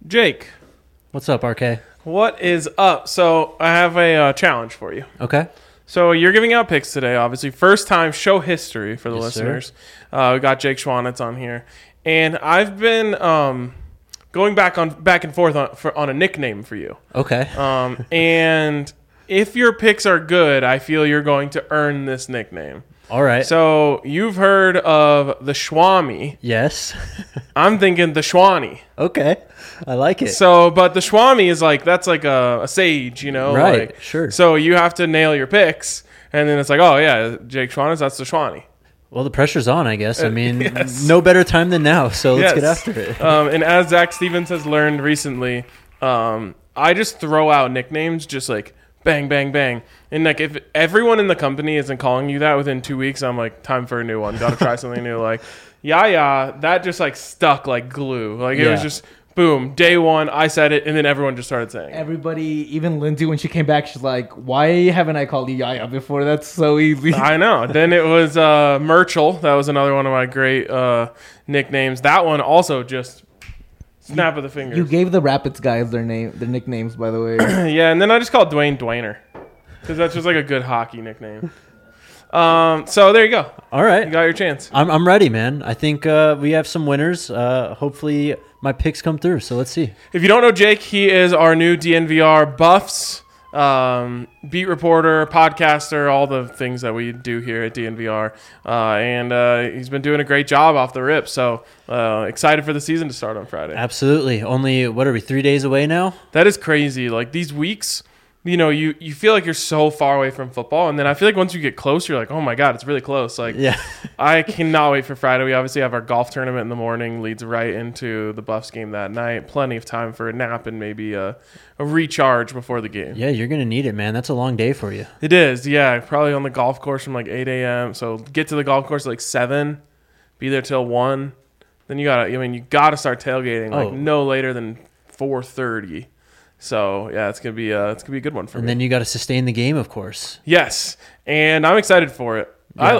Jake, What's up, RK? what is up? So I have a challenge for you. Okay. So you're giving out picks today, obviously. First time show history for the Yes, listeners. We got Jake Schwanitz on here. And I've been going back and forth on a nickname for you. Okay. And if your picks are good, I feel you're going to earn this nickname. All right. So you've heard of the Schwami. Yes. I'm thinking the Schwani. Okay. I like it. So, but the Schwami is that's like a sage, Right, sure. So you have to nail your picks, and then it's like, oh yeah, Jake Schwanitz, that's the Schwani. Well, the pressure's on, I guess. I mean, yes. no better time than now, so let's get Yes. after it. And as Zach Stevens has learned recently, I just throw out nicknames, just like bang, bang, bang. And like if everyone in the company isn't calling you that within 2 weeks, I'm like, time for a new one. Got to try something new. Like, yeah, that just like stuck like glue. Like it was just boom, day one, I said it, and then everyone just started saying it. Everybody, even Lindsay, when she came back, she's like, why haven't I called you Yaya before? That's so easy. I know. Then it was Murchel. That was another one of my great nicknames. That one also just snap of the fingers. You gave the Rapids guys their nicknames, by the way. Yeah, and then I just called Dwayne Dwayner because that's just like a good hockey nickname. So there you go. All right. You got your chance. I'm ready, man. I think we have some winners. Hopefully my picks come through, so let's see. If you don't know Jake, he is our new DNVR Buffs beat reporter, podcaster, all the things that we do here at DNVR. And he's been doing a great job off the rip. So excited for the season to start on Friday. Absolutely. Only, what are we, 3 days away now? That is crazy. Like these weeks, you feel like you're so far away from football. And then I feel like once you get close, you're like, oh my God, it's really close. Like, Yeah. I cannot wait for Friday. We obviously have our golf tournament in the morning, leads right into the Buffs game that night. Plenty of time for a nap and maybe a recharge before the game. Yeah, you're going to need it, man. That's a long day for you. It is, yeah. Probably on the golf course from like 8 a.m. So get to the golf course at like 7, be there till 1. Then you got to start tailgating like no later than 4:30. So yeah, it's gonna be a good one for me. And then you got to sustain the game, of course. Yes, and I'm excited for it. Yeah.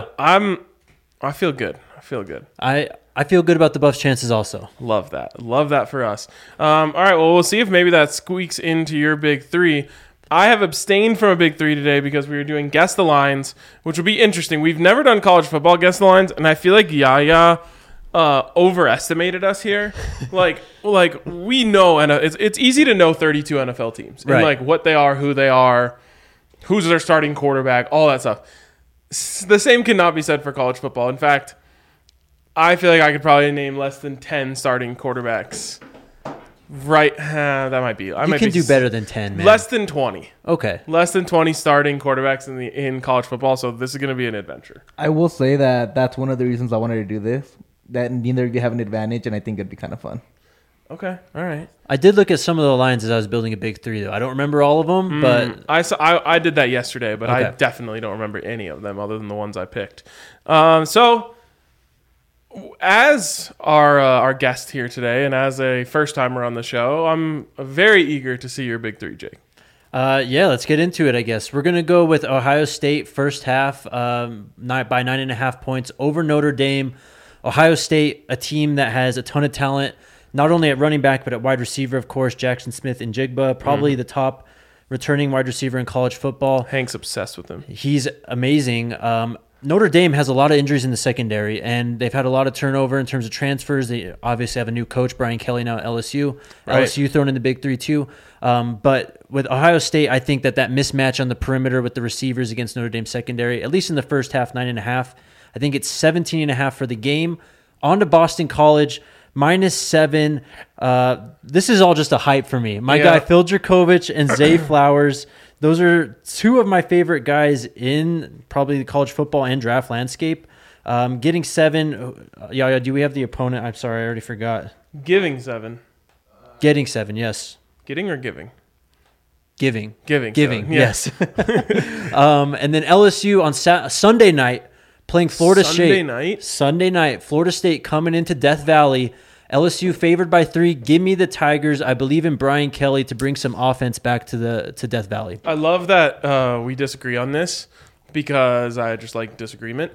I feel good. I feel good. I feel good about the Buffs' chances also. Love that for us. All right, well, we'll see if maybe that squeaks into your big three. I have abstained from a big three today because we were doing Guess the Lines, which will be interesting. We've never done college football Guess the Lines, and I feel like Yaya overestimated us here. like we know, and it's easy to know 32 NFL teams and like what they are, who they are, who's their starting quarterback, all that stuff. The same cannot be said for college football. In fact, I feel like I could probably name less than 10 starting quarterbacks. Right, that might be. You can do better than 10, man. Less than 20. Okay. Less than 20 starting quarterbacks in college football. So this is going to be an adventure. I will say that that's one of the reasons I wanted to do this. That neither of you have an advantage, and I think it'd be kind of fun. Okay, all right. I did look at some of the lines as I was building a big three, though. I don't remember all of them, but I did that yesterday, but I definitely don't remember any of them other than the ones I picked. So, as our guest here today, and as a first timer on the show, I'm very eager to see your big three, Jake. Yeah, let's get into it, I guess. We're going to go with Ohio State first half by 9.5 points over Notre Dame. Ohio State, a team that has a ton of talent, not only at running back, but at wide receiver, of course, Jackson Smith and Jigba, probably the top returning wide receiver in college football. Hank's obsessed with him. He's amazing. Notre Dame has a lot of injuries in the secondary, and they've had a lot of turnover in terms of transfers. They obviously have a new coach, Brian Kelly, now at LSU. Right. LSU thrown in the big three, too. But with Ohio State, I think that mismatch on the perimeter with the receivers against Notre Dame secondary, at least in the first half, 9.5. I think it's 17.5 for the game. On to Boston College, -7. This is all just a hype for me. My guy, Phil Dracovic and Zay Flowers, those are two of my favorite guys in probably the college football and draft landscape. Getting 7. Yeah, do we have the opponent? I'm sorry, I already forgot. Giving 7. Getting 7, yes. Getting or giving? Giving. Giving, yes. And then LSU on Sunday night, playing Florida State. Sunday night. Florida State coming into Death Valley. LSU favored by 3. Give me the Tigers. I believe in Brian Kelly to bring some offense back to Death Valley. I love that we disagree on this because I just like disagreement.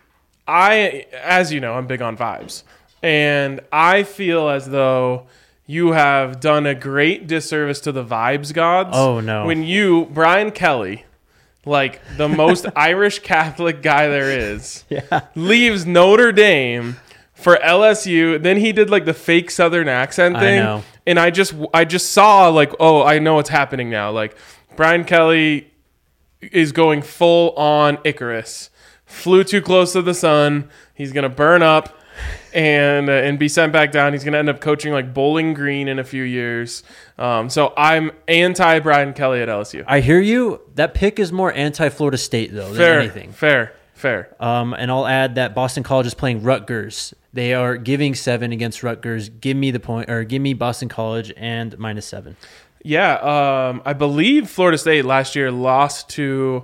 As you know, I'm big on vibes. And I feel as though you have done a great disservice to the vibes gods. Oh, no. When you, Brian Kelly, like the most Irish Catholic guy there is, leaves Notre Dame for LSU. Then he did like the fake Southern accent thing. I know. And I just saw like, oh, I know what's happening now. Like Brian Kelly is going full on Icarus. Flew too close to the sun. He's going to burn up and be sent back down. He's going to end up coaching like Bowling Green in a few years. So I'm anti Brian Kelly at LSU. I hear you. That pick is more anti-Florida State, though, than anything. Fair. And I'll add that Boston College is playing Rutgers. They are giving 7 against Rutgers. Give me the point, or give me Boston College and -7. Yeah, I believe Florida State last year lost to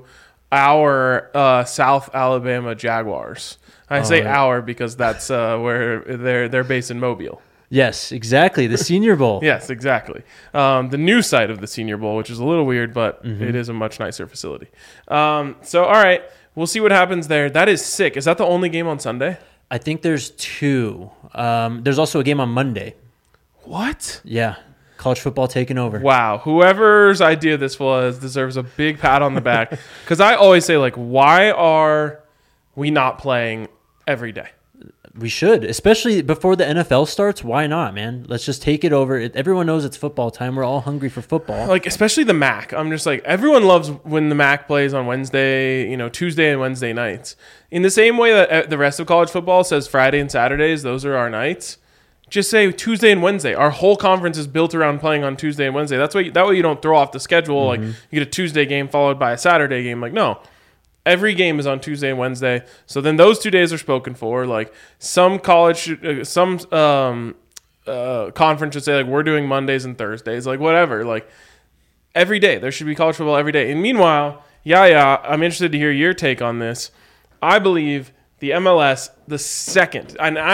our South Alabama Jaguars. I say our because that's where they're based in Mobile. Yes, exactly. The Senior Bowl. Yes, exactly. The new site of the Senior Bowl, which is a little weird, but it is a much nicer facility. So, all right, we'll see what happens there. That is sick. Is that the only game on Sunday? I think there's 2. There's also a game on Monday. What? Yeah. College football taking over. Wow. Whoever's idea this was deserves a big pat on the back. Because I always say, like, why are we not playing every day? We should, especially before the NFL starts. Why not, man? Let's just take it over. Everyone knows it's football time. We're all hungry for football. Like, especially the MAC. I'm just like, everyone loves when the MAC plays on Wednesday, Tuesday and Wednesday nights. In the same way that the rest of college football says Friday and Saturdays, those are our nights. Just say Tuesday and Wednesday. Our whole conference is built around playing on Tuesday and Wednesday. That way you don't throw off the schedule. Like, you get a Tuesday game followed by a Saturday game. Like, no. Every game is on Tuesday and Wednesday. So then those 2 days are spoken for. Like some college, some conference should say like we're doing Mondays and Thursdays. Like whatever. Like every day there should be college football every day. And meanwhile, I'm interested to hear your take on this. I believe the MLS, the second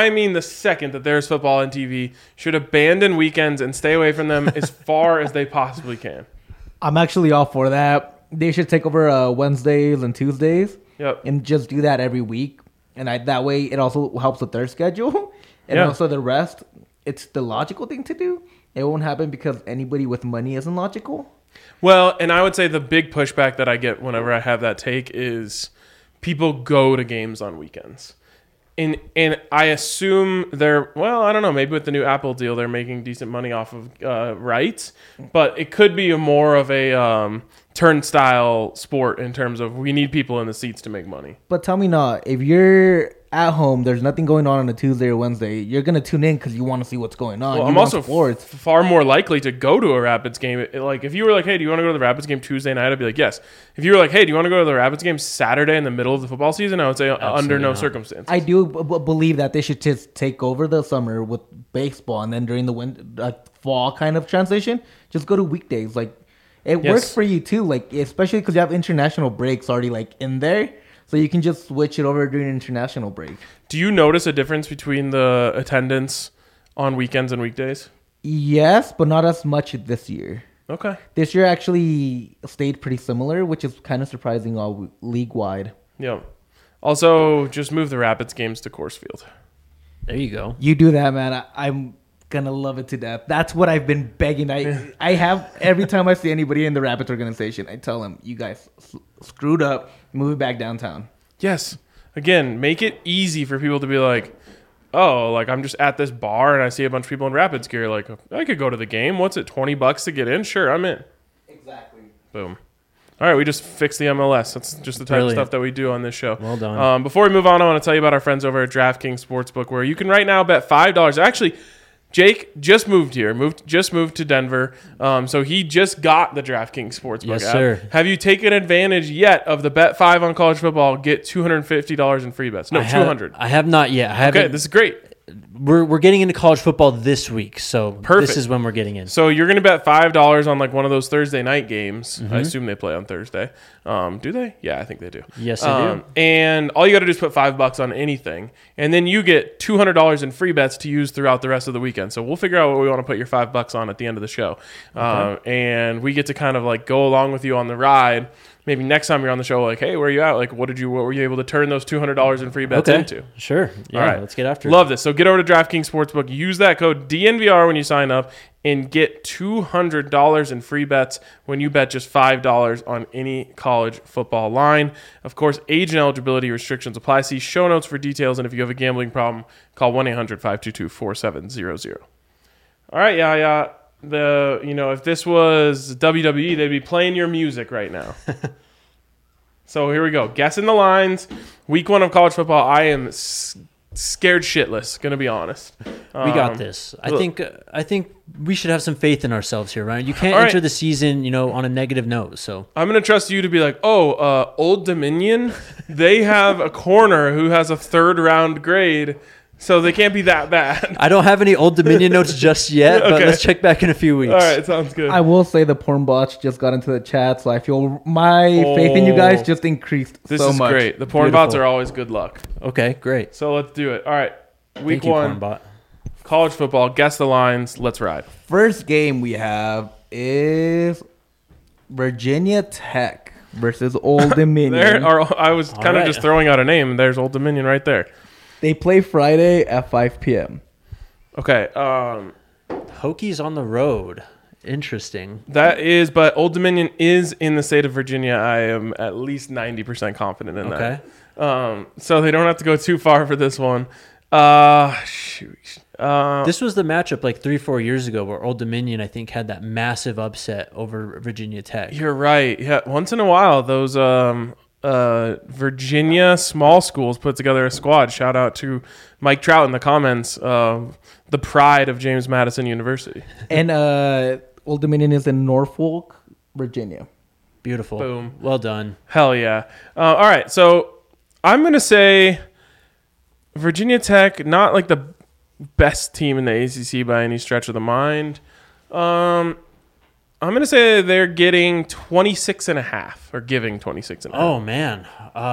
that there's football on TV, should abandon weekends and stay away from them as far as they possibly can. I'm actually all for that. They should take over Wednesdays and Tuesdays. Yep. And just do that every week. And that way it also helps with their schedule. And also the rest. It's the logical thing to do. It won't happen because anybody with money isn't logical. Well, and I would say the big pushback that I get whenever I have that take is people go to games on weekends. And I assume I don't know, maybe with the new Apple deal, they're making decent money off of rights. But it could be more of a turnstile sport in terms of we need people in the seats to make money. But tell me not, if you're at home, there's nothing going on a Tuesday or Wednesday, you're going to tune in because you want to see what's going on. Well, I'm also far more likely to go to a Rapids game. Like, if you were like, hey, do you want to go to the Rapids game Tuesday night? I'd be like, yes. If you were like, hey, do you want to go to the Rapids game Saturday in the middle of the football season? I would say under no circumstance. I do believe that they should just take over the summer with baseball, and then during the fall kind of transition, just go to weekdays. Like, it works for you too, like especially because you have international breaks already like in there. So you can just switch it over during international break. Do you notice a difference between the attendance on weekends and weekdays? Yes, but not as much this year. Okay. This year actually stayed pretty similar, which is kind of surprising all league-wide. Yeah. Also, just move the Rapids games to Coors Field. There you go. You do that, man. I'm going to love it to death. That's what I've been begging. I have, every time I see anybody in the Rapids organization, I tell them, you guys screwed up. Move it back downtown. Yes. Again, make it easy for people to be like, oh, like I'm just at this bar and I see a bunch of people in Rapids gear. Like, I could go to the game. What's it, $20 to get in? Sure, I'm in. Exactly. Boom. All right, we just fixed the MLS. That's just the type of stuff that we do on this show. Well done. Before we move on, I want to tell you about our friends over at DraftKings Sportsbook, where you can right now bet $5. Actually, Jake just moved here, just moved to Denver, so he just got the DraftKings Sportsbook app. Sir. Have you taken advantage yet of the Bet 5 on college football? Get $250 in free bets. No, $200. I have not yet. Okay, this is great. We're getting into college football this week, so Perfect. This is when we're getting in. So you're going to bet $5 on like one of those Thursday night games. I assume they play on Thursday. Do they? Yeah, I think they do. Yes, they do. And all you got to do is put $5 on anything, and then you get $200 in free bets to use throughout the rest of the weekend. So we'll figure out what we want to put your $5 on at the end of the show, and we get to kind of like go along with you on the ride. maybe next time you're on the show, like, hey, where are you at? Like, what were you able to turn those $200 in free bets into? Sure. Yeah, all right, let's get after Love this. So get over to DraftKings Sportsbook, use that code DNVR when you sign up, and get $200 in free bets when you bet just $5 on any college football line. Of course, age and eligibility restrictions apply. See show notes for details, and if you have a gambling problem, call 1-800-522-4700. All right, yeah. If this was WWE, they'd be playing your music right now. So here we go. Guessing the lines. Week 1 of college football. I am scared shitless, gonna be honest. We got this. I think we should have some faith in ourselves here, Ryan. You can't enter the season, on a negative note. So I'm gonna trust you to be like, Old Dominion, they have a corner who has a 3rd round grade, so they can't be that bad. I don't have any Old Dominion notes just yet, but let's check back in a few weeks. All right, sounds good. I will say the porn bots just got into the chat, so I feel my faith in you guys just increased so much. This is great. The porn bots are always good luck. Okay, great. So let's do it. All right, week Thank you, 1, porn bot. college football. Guess the lines. Let's ride. First game we have is Virginia Tech versus Old Dominion. I was kind of just throwing out a name. There's Old Dominion right there. They play Friday at 5 p.m. Okay. Hokies on the road. Interesting. But Old Dominion is in the state of Virginia. I am at least 90% confident in that. So they don't have to go too far for this one. Shoot. This was the matchup like 3-4 years ago where Old Dominion, I think, had that massive upset over Virginia Tech. You're right. Yeah, once in a while, those Virginia small schools put together a squad. Shout out to Mike Trout in the comments. The pride of James Madison University. And Old Dominion is in Norfolk, Virginia. Beautiful. Boom. Well done. Hell yeah. All right, so I'm going to say Virginia Tech, not like the best team in the ACC by any stretch of the mind. I'm going to say they're getting 26.5 or giving 26.5. Oh, man.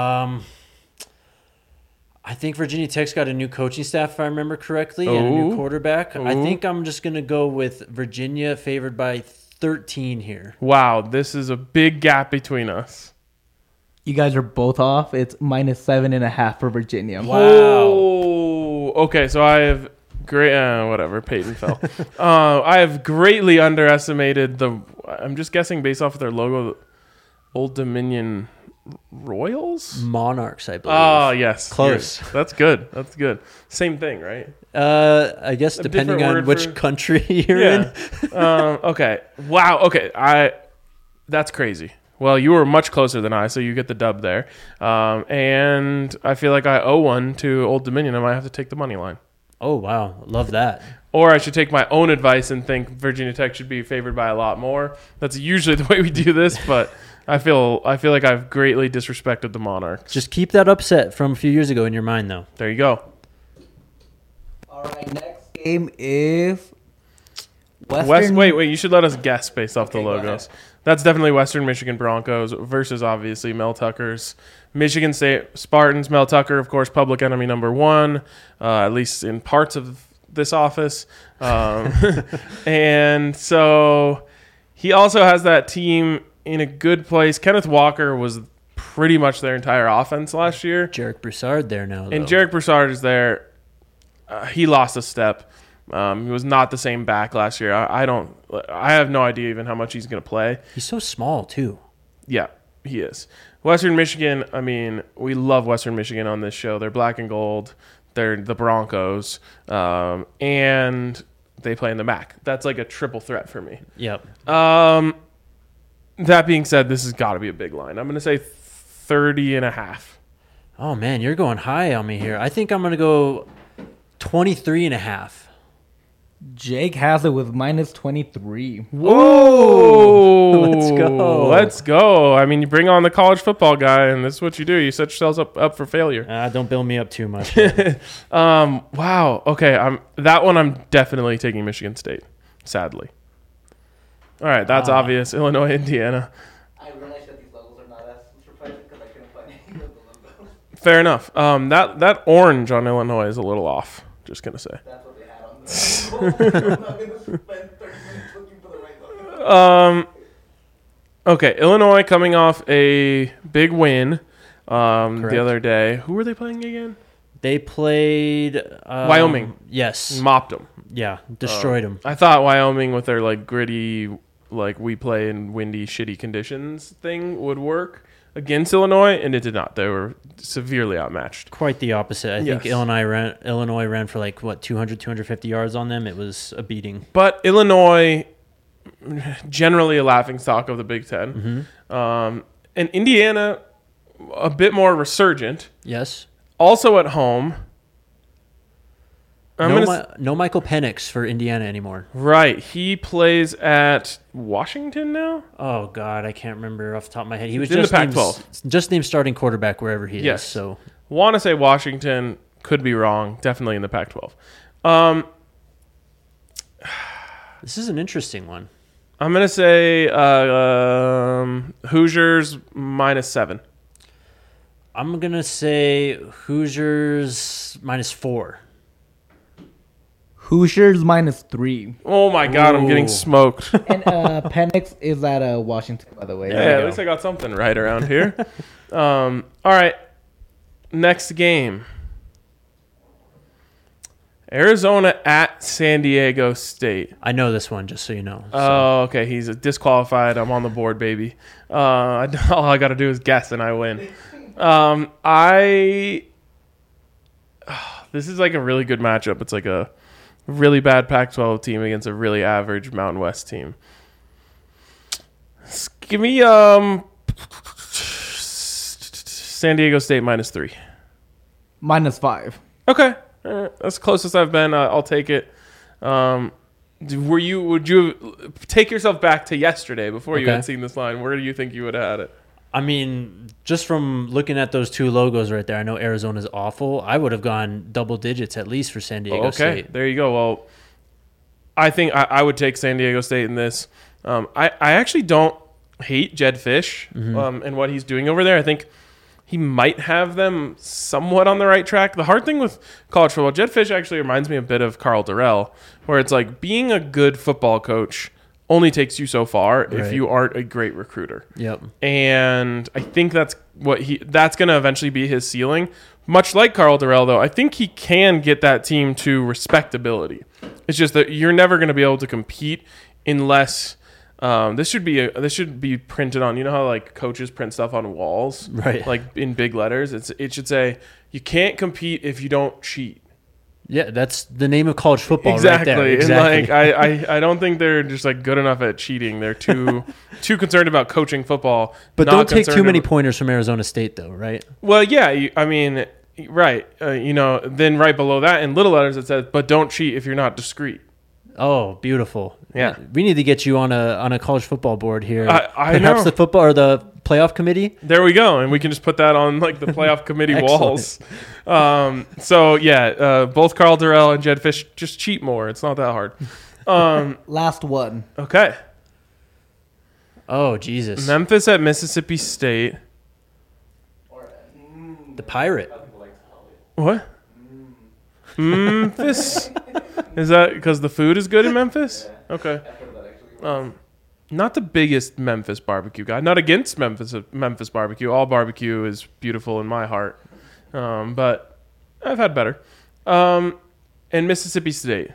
I think Virginia Tech's got a new coaching staff, if I remember correctly, and a new quarterback. I think I'm just going to go with Virginia favored by 13 here. Wow, this is a big gap between us. You guys are both off. It's -7.5 for Virginia. Wow. Oh, okay, so I have whatever, Peyton fell. I have greatly underestimated I'm just guessing based off of their logo, Old Dominion Royals? Monarchs, I believe. Oh, yes. Close. Yes. That's good. Same thing, right? I guess depending on which country you're in. Okay. Wow. Okay. That's crazy. Well, you were much closer than I, so you get the dub there. And I feel like I owe one to Old Dominion. I might have to take the money line. Oh, wow. Love that. Or I should take my own advice and think Virginia Tech should be favored by a lot more. That's usually the way we do this, but I feel like I've greatly disrespected the Monarchs. Just keep that upset from a few years ago in your mind, though. There you go. All right, next game is Wait, you should let us guess based off the logos. That's definitely Western Michigan Broncos versus obviously Mel Tucker's Michigan State Spartans. Mel Tucker, of course, public enemy number 1, at least in parts of this office. And so he also has that team in a good place. Kenneth Walker was pretty much their entire offense last year. Jarek Broussard there now, though. And Jarek Broussard is there. He lost a step. He was not the same back last year. I have no idea even how much he's going to play. He's so small, too. Yeah, he is. Western Michigan, I mean, we love Western Michigan on this show. They're black and gold. They're the Broncos. And they play in the MAC. That's like a triple threat for me. Yep. That being said, this has got to be a big line. I'm going to say 30.5. Oh, man, you're going high on me here. I think I'm going to go 23.5. Jake has it with Whoa! -23. Let's go. I mean, you bring on the college football guy, and this is what you do. You set yourselves up for failure. Don't build me up too much. Wow. Okay. I'm definitely taking Michigan State. Sadly. All right. That's obvious. Illinois, Indiana. I realize that these levels are not as surprising because I couldn't find any of the logos. Fair enough. That orange on Illinois is a little off. Just gonna say. That's what they had on the I'm not going to spend 30 minutes looking for the right logo. Okay, Illinois coming off a big win the other day. Who were they playing again? They played Wyoming. Yes. Mopped them. Yeah, destroyed them. I thought Wyoming with their like gritty, like we play in windy, shitty conditions thing would work against Illinois, and it did not. They were severely outmatched. Quite the opposite. I think Illinois ran for like, 200, 250 yards on them. It was a beating. But Illinois, generally a laughingstock of the Big Ten. Mm-hmm. And Indiana, a bit more resurgent. Yes. Also at home. No Michael Penix for Indiana anymore. Right. He plays at Washington now? Oh, God. I can't remember off the top of my head. He was in just the Pac-12. Just named starting quarterback wherever he is. So want to say Washington. Could be wrong. Definitely in the Pac-12. This is an interesting one. I'm going to say Hoosiers -7. I'm going to say Hoosiers -4. Hoosiers -3. Oh my God, I'm getting smoked. And Penix is at Washington, by the way. Yeah, at least I got something right around here. All right, next game. Arizona at San Diego State. I know this one, just so you know. Oh, okay. He's disqualified. I'm on the board, baby. All I got to do is guess, and I win. This is like a really good matchup. It's like a really bad Pac-12 team against a really average Mountain West team. Give me San Diego State -3. -5. Okay, that's the closest I've been. I'll take it. Would you take yourself back to yesterday before you had seen this line? Where do you think you would have had it? I mean, just from looking at those two logos right there, I know Arizona's awful. I would have gone double digits at least for San Diego State. Okay, there you go. Well, I think I would take San Diego State in this. I actually don't hate Jed Fish and what he's doing over there. I think he might have them somewhat on the right track. The hard thing with college football, Jed Fish actually reminds me a bit of Carl Durrell, where it's like being a good football coach only takes you so far if you aren't a great recruiter. Yep. And I think that's going to eventually be his ceiling. Much like Carl Durrell, though, I think he can get that team to respectability. It's just that you're never going to be able to compete unless this should be printed on. You know how like coaches print stuff on walls, right? Like in big letters. It should say you can't compete if you don't cheat. Yeah, that's the name of college football, exactly. Right there. Exactly. And like I don't think they're just like good enough at cheating. They're too concerned about coaching football. But don't take too many pointers from Arizona State, though, right? Well, yeah. I mean, right. Then right below that in little letters it says, "But don't cheat if you're not discreet." Oh, beautiful! Yeah, we need to get you on a college football board here. I Perhaps know. the football or the playoff committee. There we go, and we can just put that on like the playoff committee walls. So yeah, both Carl Durrell and Jed Fish just cheat more. It's not that hard. Last one. Okay. Oh Jesus! Memphis at Mississippi State. The Pirate. What? Memphis? Is that because the food is good in Memphis? Okay. Not the biggest Memphis barbecue guy. Not against Memphis barbecue. All barbecue is beautiful in my heart. But I've had better. And Mississippi State.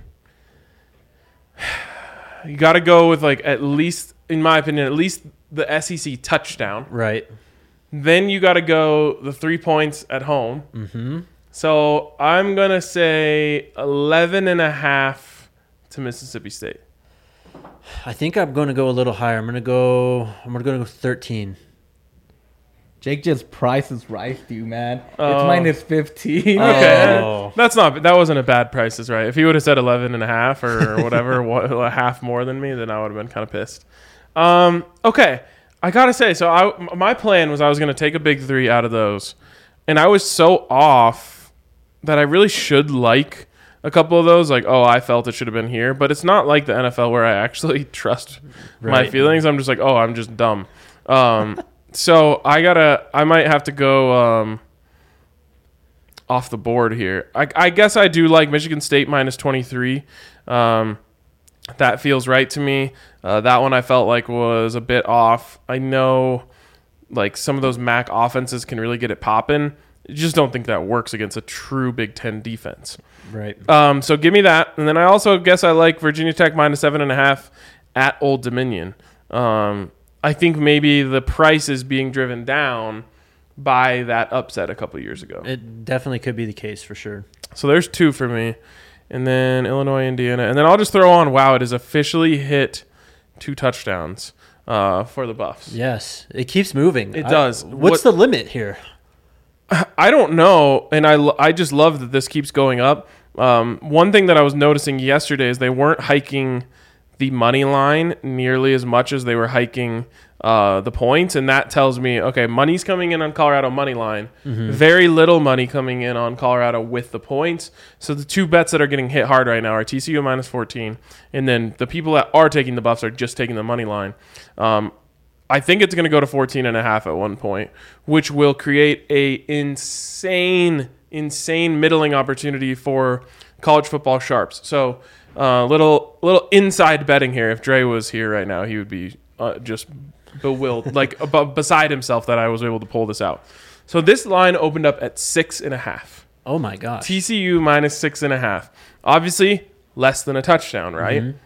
You got to go with like at least, in my opinion, at least the SEC touchdown. Right. Then you got to go the 3 points at home. Mm-hmm. So I'm going to say 11.5 to Mississippi State. I think I'm going to go a little higher. I'm going to go 13. Jake just prices right, you man. It's -15. Okay. Oh. That wasn't a bad Price is Right. If he would have said 11.5 or whatever, a half more than me, then I would have been kind of pissed. Okay. I got to say, so my plan was I was going to take a big 3 out of those. And I was so off that I really should like a couple of those. Like, I felt it should have been here. But it's not like the NFL where I actually trust my feelings. I'm just like, I'm just dumb. So I might have to go off the board here. I guess I do like Michigan State -23. That feels right to me. That one I felt like was a bit off. I know like some of those MAC offenses can really get it popping. I just don't think that works against a true Big Ten defense. Right. So give me that. And then I also guess I like Virginia Tech -7.5 at Old Dominion. I think maybe the price is being driven down by that upset a couple years ago. It definitely could be the case for sure. So there's 2 for me. And then Illinois, Indiana. And then I'll just throw on, wow, it has officially hit 2 touchdowns for the Buffs. Yes, it keeps moving. It does. What's the limit here? I don't know, and I just love that this keeps going up. One thing that I was noticing yesterday is they weren't hiking the money line nearly as much as they were hiking the points, and that tells me, okay, money's coming in on Colorado money line, very little money coming in on Colorado with the points. So the 2 bets that are getting hit hard right now are TCU -14, and then the people that are taking the Buffs are just taking the money line. I think it's going to go to 14.5 at one point, which will create a insane middling opportunity for college football sharps. So little inside betting here. If Dre was here right now, he would be just bewildered, like beside himself that I was able to pull this out. So this line opened up at 6.5. Oh my gosh. TCU -6.5. Obviously, less than a touchdown, right? Mm-hmm.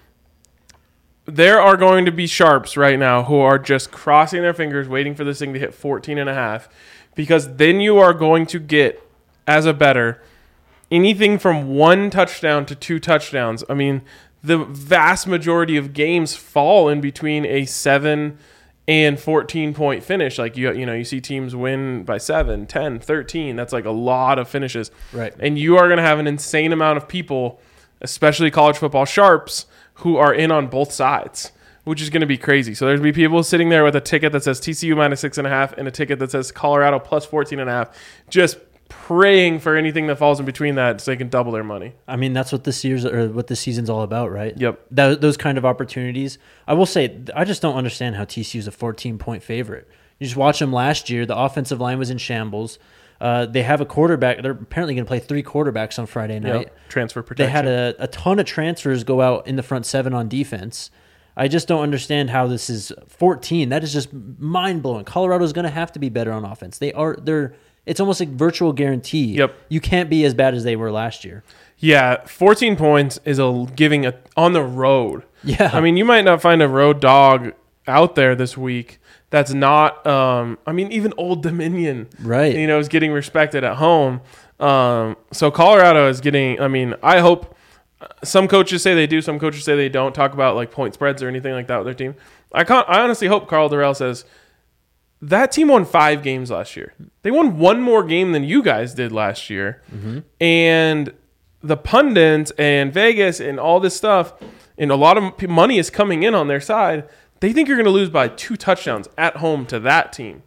There are going to be sharps right now who are just crossing their fingers, waiting for this thing to hit 14.5, because then you are going to get, as a bettor, anything from 1 touchdown to 2 touchdowns. I mean, the vast majority of games fall in between a 7 and 14-point finish. Like, you see teams win by 7, 10, 13. That's like a lot of finishes. Right. And you are going to have an insane amount of people, especially college football sharps, who are in on both sides, which is going to be crazy. So there's going to be people sitting there with a ticket that says TCU -6.5 and a ticket that says Colorado +14.5, just praying for anything that falls in between that so they can double their money. I mean, that's what this season's all about, right? Yep. Those kind of opportunities. I will say, I just don't understand how TCU's a 14-point favorite. You just watch them last year. The offensive line was in shambles. They have a quarterback. They're apparently going to play 3 quarterbacks on Friday night. Yep. Transfer protection. They had a ton of transfers go out in the front 7 on defense. I just don't understand how this is 14. That is just mind-blowing. Colorado's going to have to be better on offense. It's almost like virtual guarantee. Yep. You can't be as bad as they were last year. Yeah, 14 points is giving on the road. Yeah. I mean, you might not find a road dog out there this week that's not, even Old Dominion, right? Is getting respected at home. So Colorado is getting, I hope some coaches say they do, some coaches say they don't talk about like point spreads or anything like that with their team. I honestly hope Carl Durrell says, that team won 5 games last year. They won 1 more game than you guys did last year. Mm-hmm. And the pundits and Vegas and all this stuff, and a lot of money is coming in on their side. They think you're going to lose by 2 touchdowns at home to that team.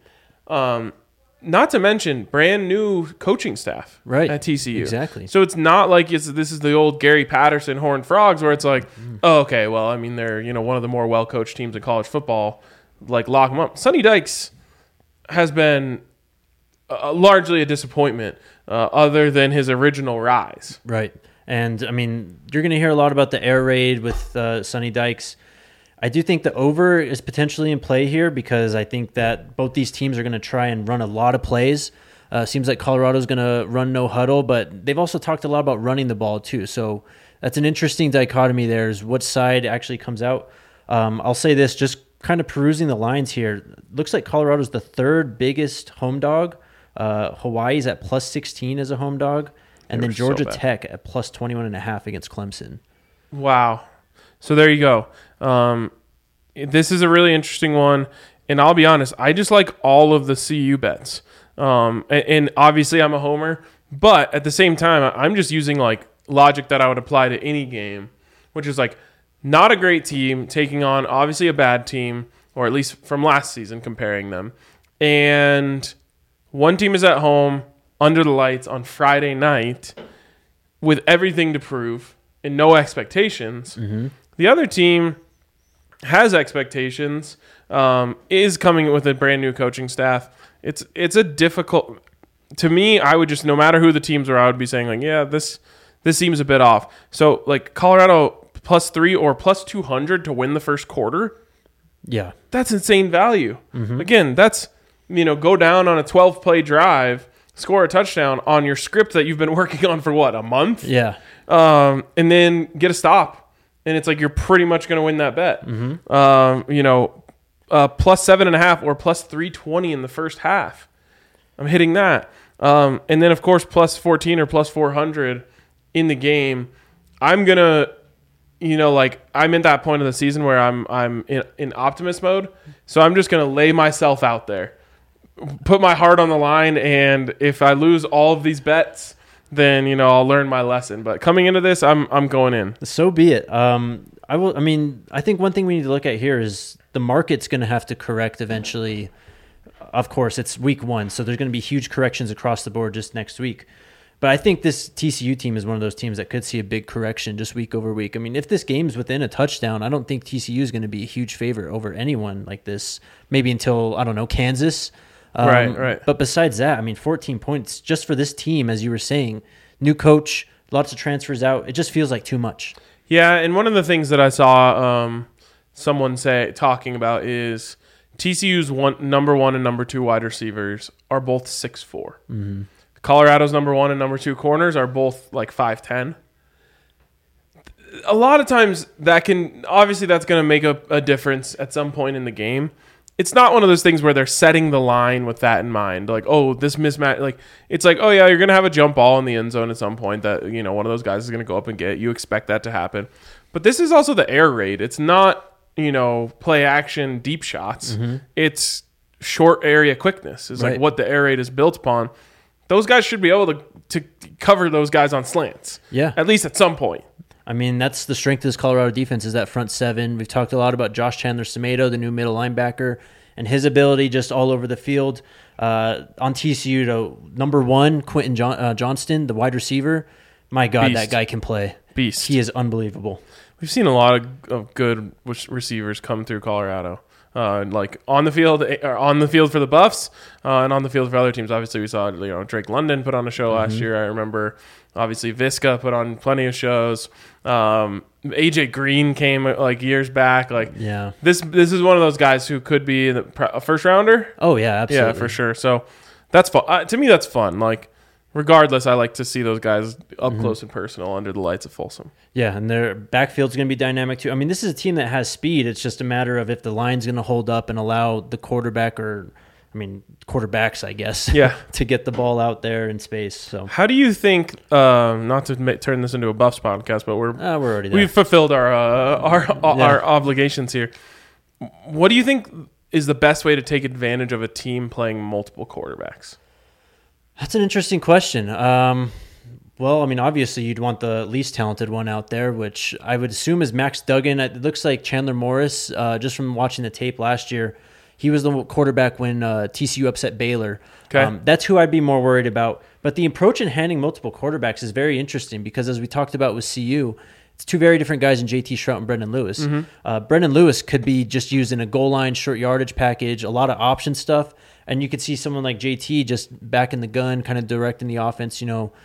Not to mention brand new coaching staff right at TCU. Exactly. So it's not like this is the old Gary Patterson Horned Frogs where it's like, oh, okay, well, they're one of the more well-coached teams in college football. Like, lock them up. Sonny Dykes has been largely a disappointment other than his original rise. Right. And, you're going to hear a lot about the air raid with Sonny Dykes. I do think the over is potentially in play here because I think that both these teams are going to try and run a lot of plays. Seems like Colorado's going to run no huddle, but they've also talked a lot about running the ball too. So that's an interesting dichotomy there is what side actually comes out. I'll say this, just kind of perusing the lines here. Looks like Colorado's the 3rd biggest home dog. Hawaii's at +16 as a home dog. And then Georgia Tech at +21.5 against Clemson. Wow. So there you go. This is a really interesting one. And I'll be honest, I just like all of the CU bets. And obviously I'm a homer. But at the same time, I'm just using like logic that I would apply to any game, which is like not a great team taking on obviously a bad team, or at least from last season comparing them. And one team is at home under the lights on Friday night with everything to prove and no expectations. Mm-hmm. The other team has expectations, is coming with a brand new coaching staff. It's a difficult, to me, I would just, no matter who the teams are, I would be saying like, yeah, this seems a bit off. So like Colorado +3 or +200 to win the first quarter. Yeah. That's insane value. Again, that's, go down on a 12-play drive, score a touchdown on your script that you've been working on for what, a month? Yeah. And then get a stop. And it's like you're pretty much going to win that bet. +7.5 or +320 in the first half. I'm hitting that. And then, of course, +14 or +400 in the game. I'm going to, I'm in that point of the season where I'm in optimist mode. So I'm just going to lay myself out there, put my heart on the line. And if I lose all of these bets, then, I'll learn my lesson. But coming into this, I'm going in. So be it. I think one thing we need to look at here is the market's going to have to correct eventually. Of course, it's week 1, so there's going to be huge corrections across the board just next week. But I think this TCU team is one of those teams that could see a big correction just week over week. I mean, if this game's within a touchdown, I don't think TCU is going to be a huge favorite over anyone like this, maybe until, I don't know, Kansas. Right. But besides that, 14 points just for this team, as you were saying, new coach, lots of transfers out. It just feels like too much. Yeah, and one of the things that I saw someone talking about is TCU's number 1 and number 2 wide receivers are both 6'4". Mm-hmm. Colorado's number 1 and number 2 corners are both like 5'10". A lot of times that's going to make a difference at some point in the game. It's not one of those things where they're setting the line with that in mind. Like, oh, this mismatch. Like, it's like, oh yeah, you're going to have a jump ball in the end zone at some point that, one of those guys is going to go up and get. You expect that to happen. But this is also the air raid. It's not, play action deep shots. Mm-hmm. It's short area quickness is like what the air raid is built upon. Those guys should be able to cover those guys on slants. Yeah. At least at some point. That's the strength of this Colorado defense is that front 7. We've talked a lot about Josh Chandler-Semedo, the new middle linebacker, and his ability just all over the field. On TCU, number 1, Quentin Johnston, the wide receiver. My God, Beast. that guy can play. Beast. He is unbelievable. We've seen a lot of good receivers come through Colorado. Like on the field for the Buffs, and on the field for other teams. Obviously, we saw Drake London put on a show last year. I remember, obviously, Visca put on plenty of shows. AJ Green came years back. This is one of those guys who could be a first rounder. Oh yeah, absolutely. Yeah, for sure. So that's fun. To me, that's fun. Regardless, I like to see those guys up close and personal under the lights of Folsom. Yeah, and their backfield's going to be dynamic too. This is a team that has speed. It's just a matter of if the line's going to hold up and allow the quarterbacks, I guess, to get the ball out there in space. So, how do you think? Not to turn this into a Buffs podcast, but we're already there. We've fulfilled our obligations here. What do you think is the best way to take advantage of a team playing multiple quarterbacks? That's an interesting question. Obviously you'd want the least talented one out there, which I would assume is Max Duggan. It looks like Chandler Morris, just from watching the tape last year, he was the quarterback when TCU upset Baylor. Okay. That's who I'd be more worried about. But the approach in handing multiple quarterbacks is very interesting because, as we talked about with CU, it's 2 very different guys in JT Shrout and Brendan Lewis. Mm-hmm. Brendan Lewis could be just used in a goal line, short yardage package, a lot of option stuff. And you could see someone like JT just back in the gun, kind of directing the offense,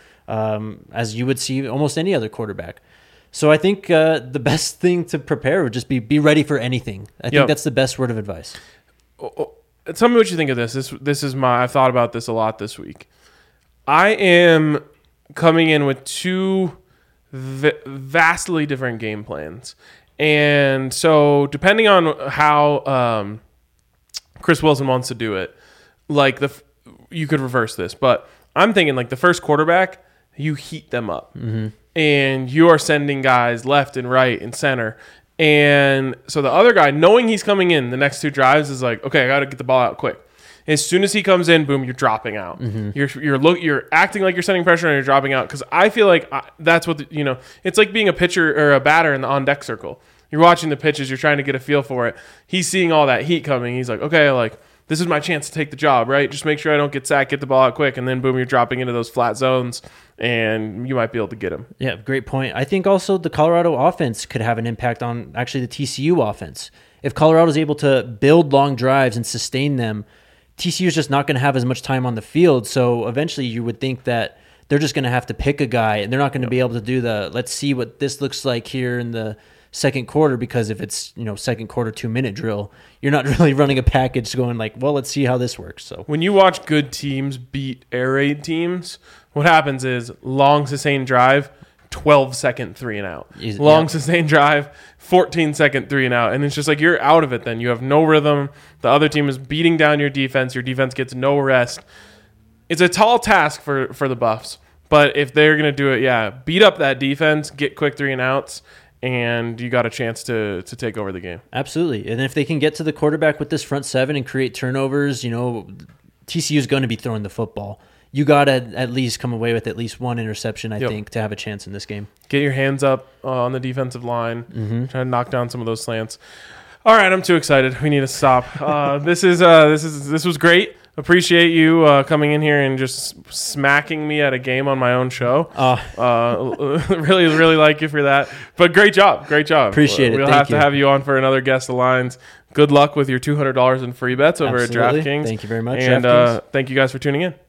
as you would see almost any other quarterback. So I think the best thing to prepare would just be ready for anything. I think that's the best word of advice. Tell me what you think of this. This is I've thought about this a lot this week. I am coming in with 2 vastly different game plans. And so depending on how Chris Wilson wants to do it, you could reverse this, but I'm thinking the first quarterback, you heat them up, and you are sending guys left and right and center, and so the other guy, knowing he's coming in the next 2 drives, is like, okay, I got to get the ball out quick. As soon as he comes in, boom, you're dropping out. You're acting like you're sending pressure and you're dropping out, because I feel like that's what it's like being a pitcher or a batter in the on deck circle. You're watching the pitches, you're trying to get a feel for it. He's seeing all that heat coming. He's like, okay, this is my chance to take the job, right? Just make sure I don't get sacked, get the ball out quick, and then boom, you're dropping into those flat zones, and you might be able to get him. Yeah, great point. I think also the Colorado offense could have an impact on actually the TCU offense. If Colorado is able to build long drives and sustain them, TCU is just not going to have as much time on the field. So eventually you would think that they're just going to have to pick a guy, and they're not going to be able to do let's see what this looks like here in the second quarter, because if it's second quarter 2-minute drill, you're not really running a package going like, well, let's see how this works. So when you watch good teams beat air raid teams, what happens is long sustained drive, 12-second 3 and out. Long sustained drive, 14-second 3 and out. And it's just like you're out of it then. You have no rhythm. The other team is beating down your defense. Your defense gets no rest. It's a tall task for the Buffs. But if they're going to do it, beat up that defense, get quick 3 and outs, and you got a chance to take over the game. Absolutely. And if they can get to the quarterback with this front seven and create turnovers, TCU is going to be throwing the football. You got to at least come away with at least one interception, I think, to have a chance in this game. Get your hands up on the defensive line. Try to knock down some of those slants. All right, I'm too excited. We need to stop. This was great. Appreciate you coming in here and just smacking me at a game on my own show. Really, really like you for that. But great job. Appreciate it. We'll have to have you on for another Guess the Lines. Good luck with your $200 in free bets over at DraftKings. Thank you very much. And thank you guys for tuning in.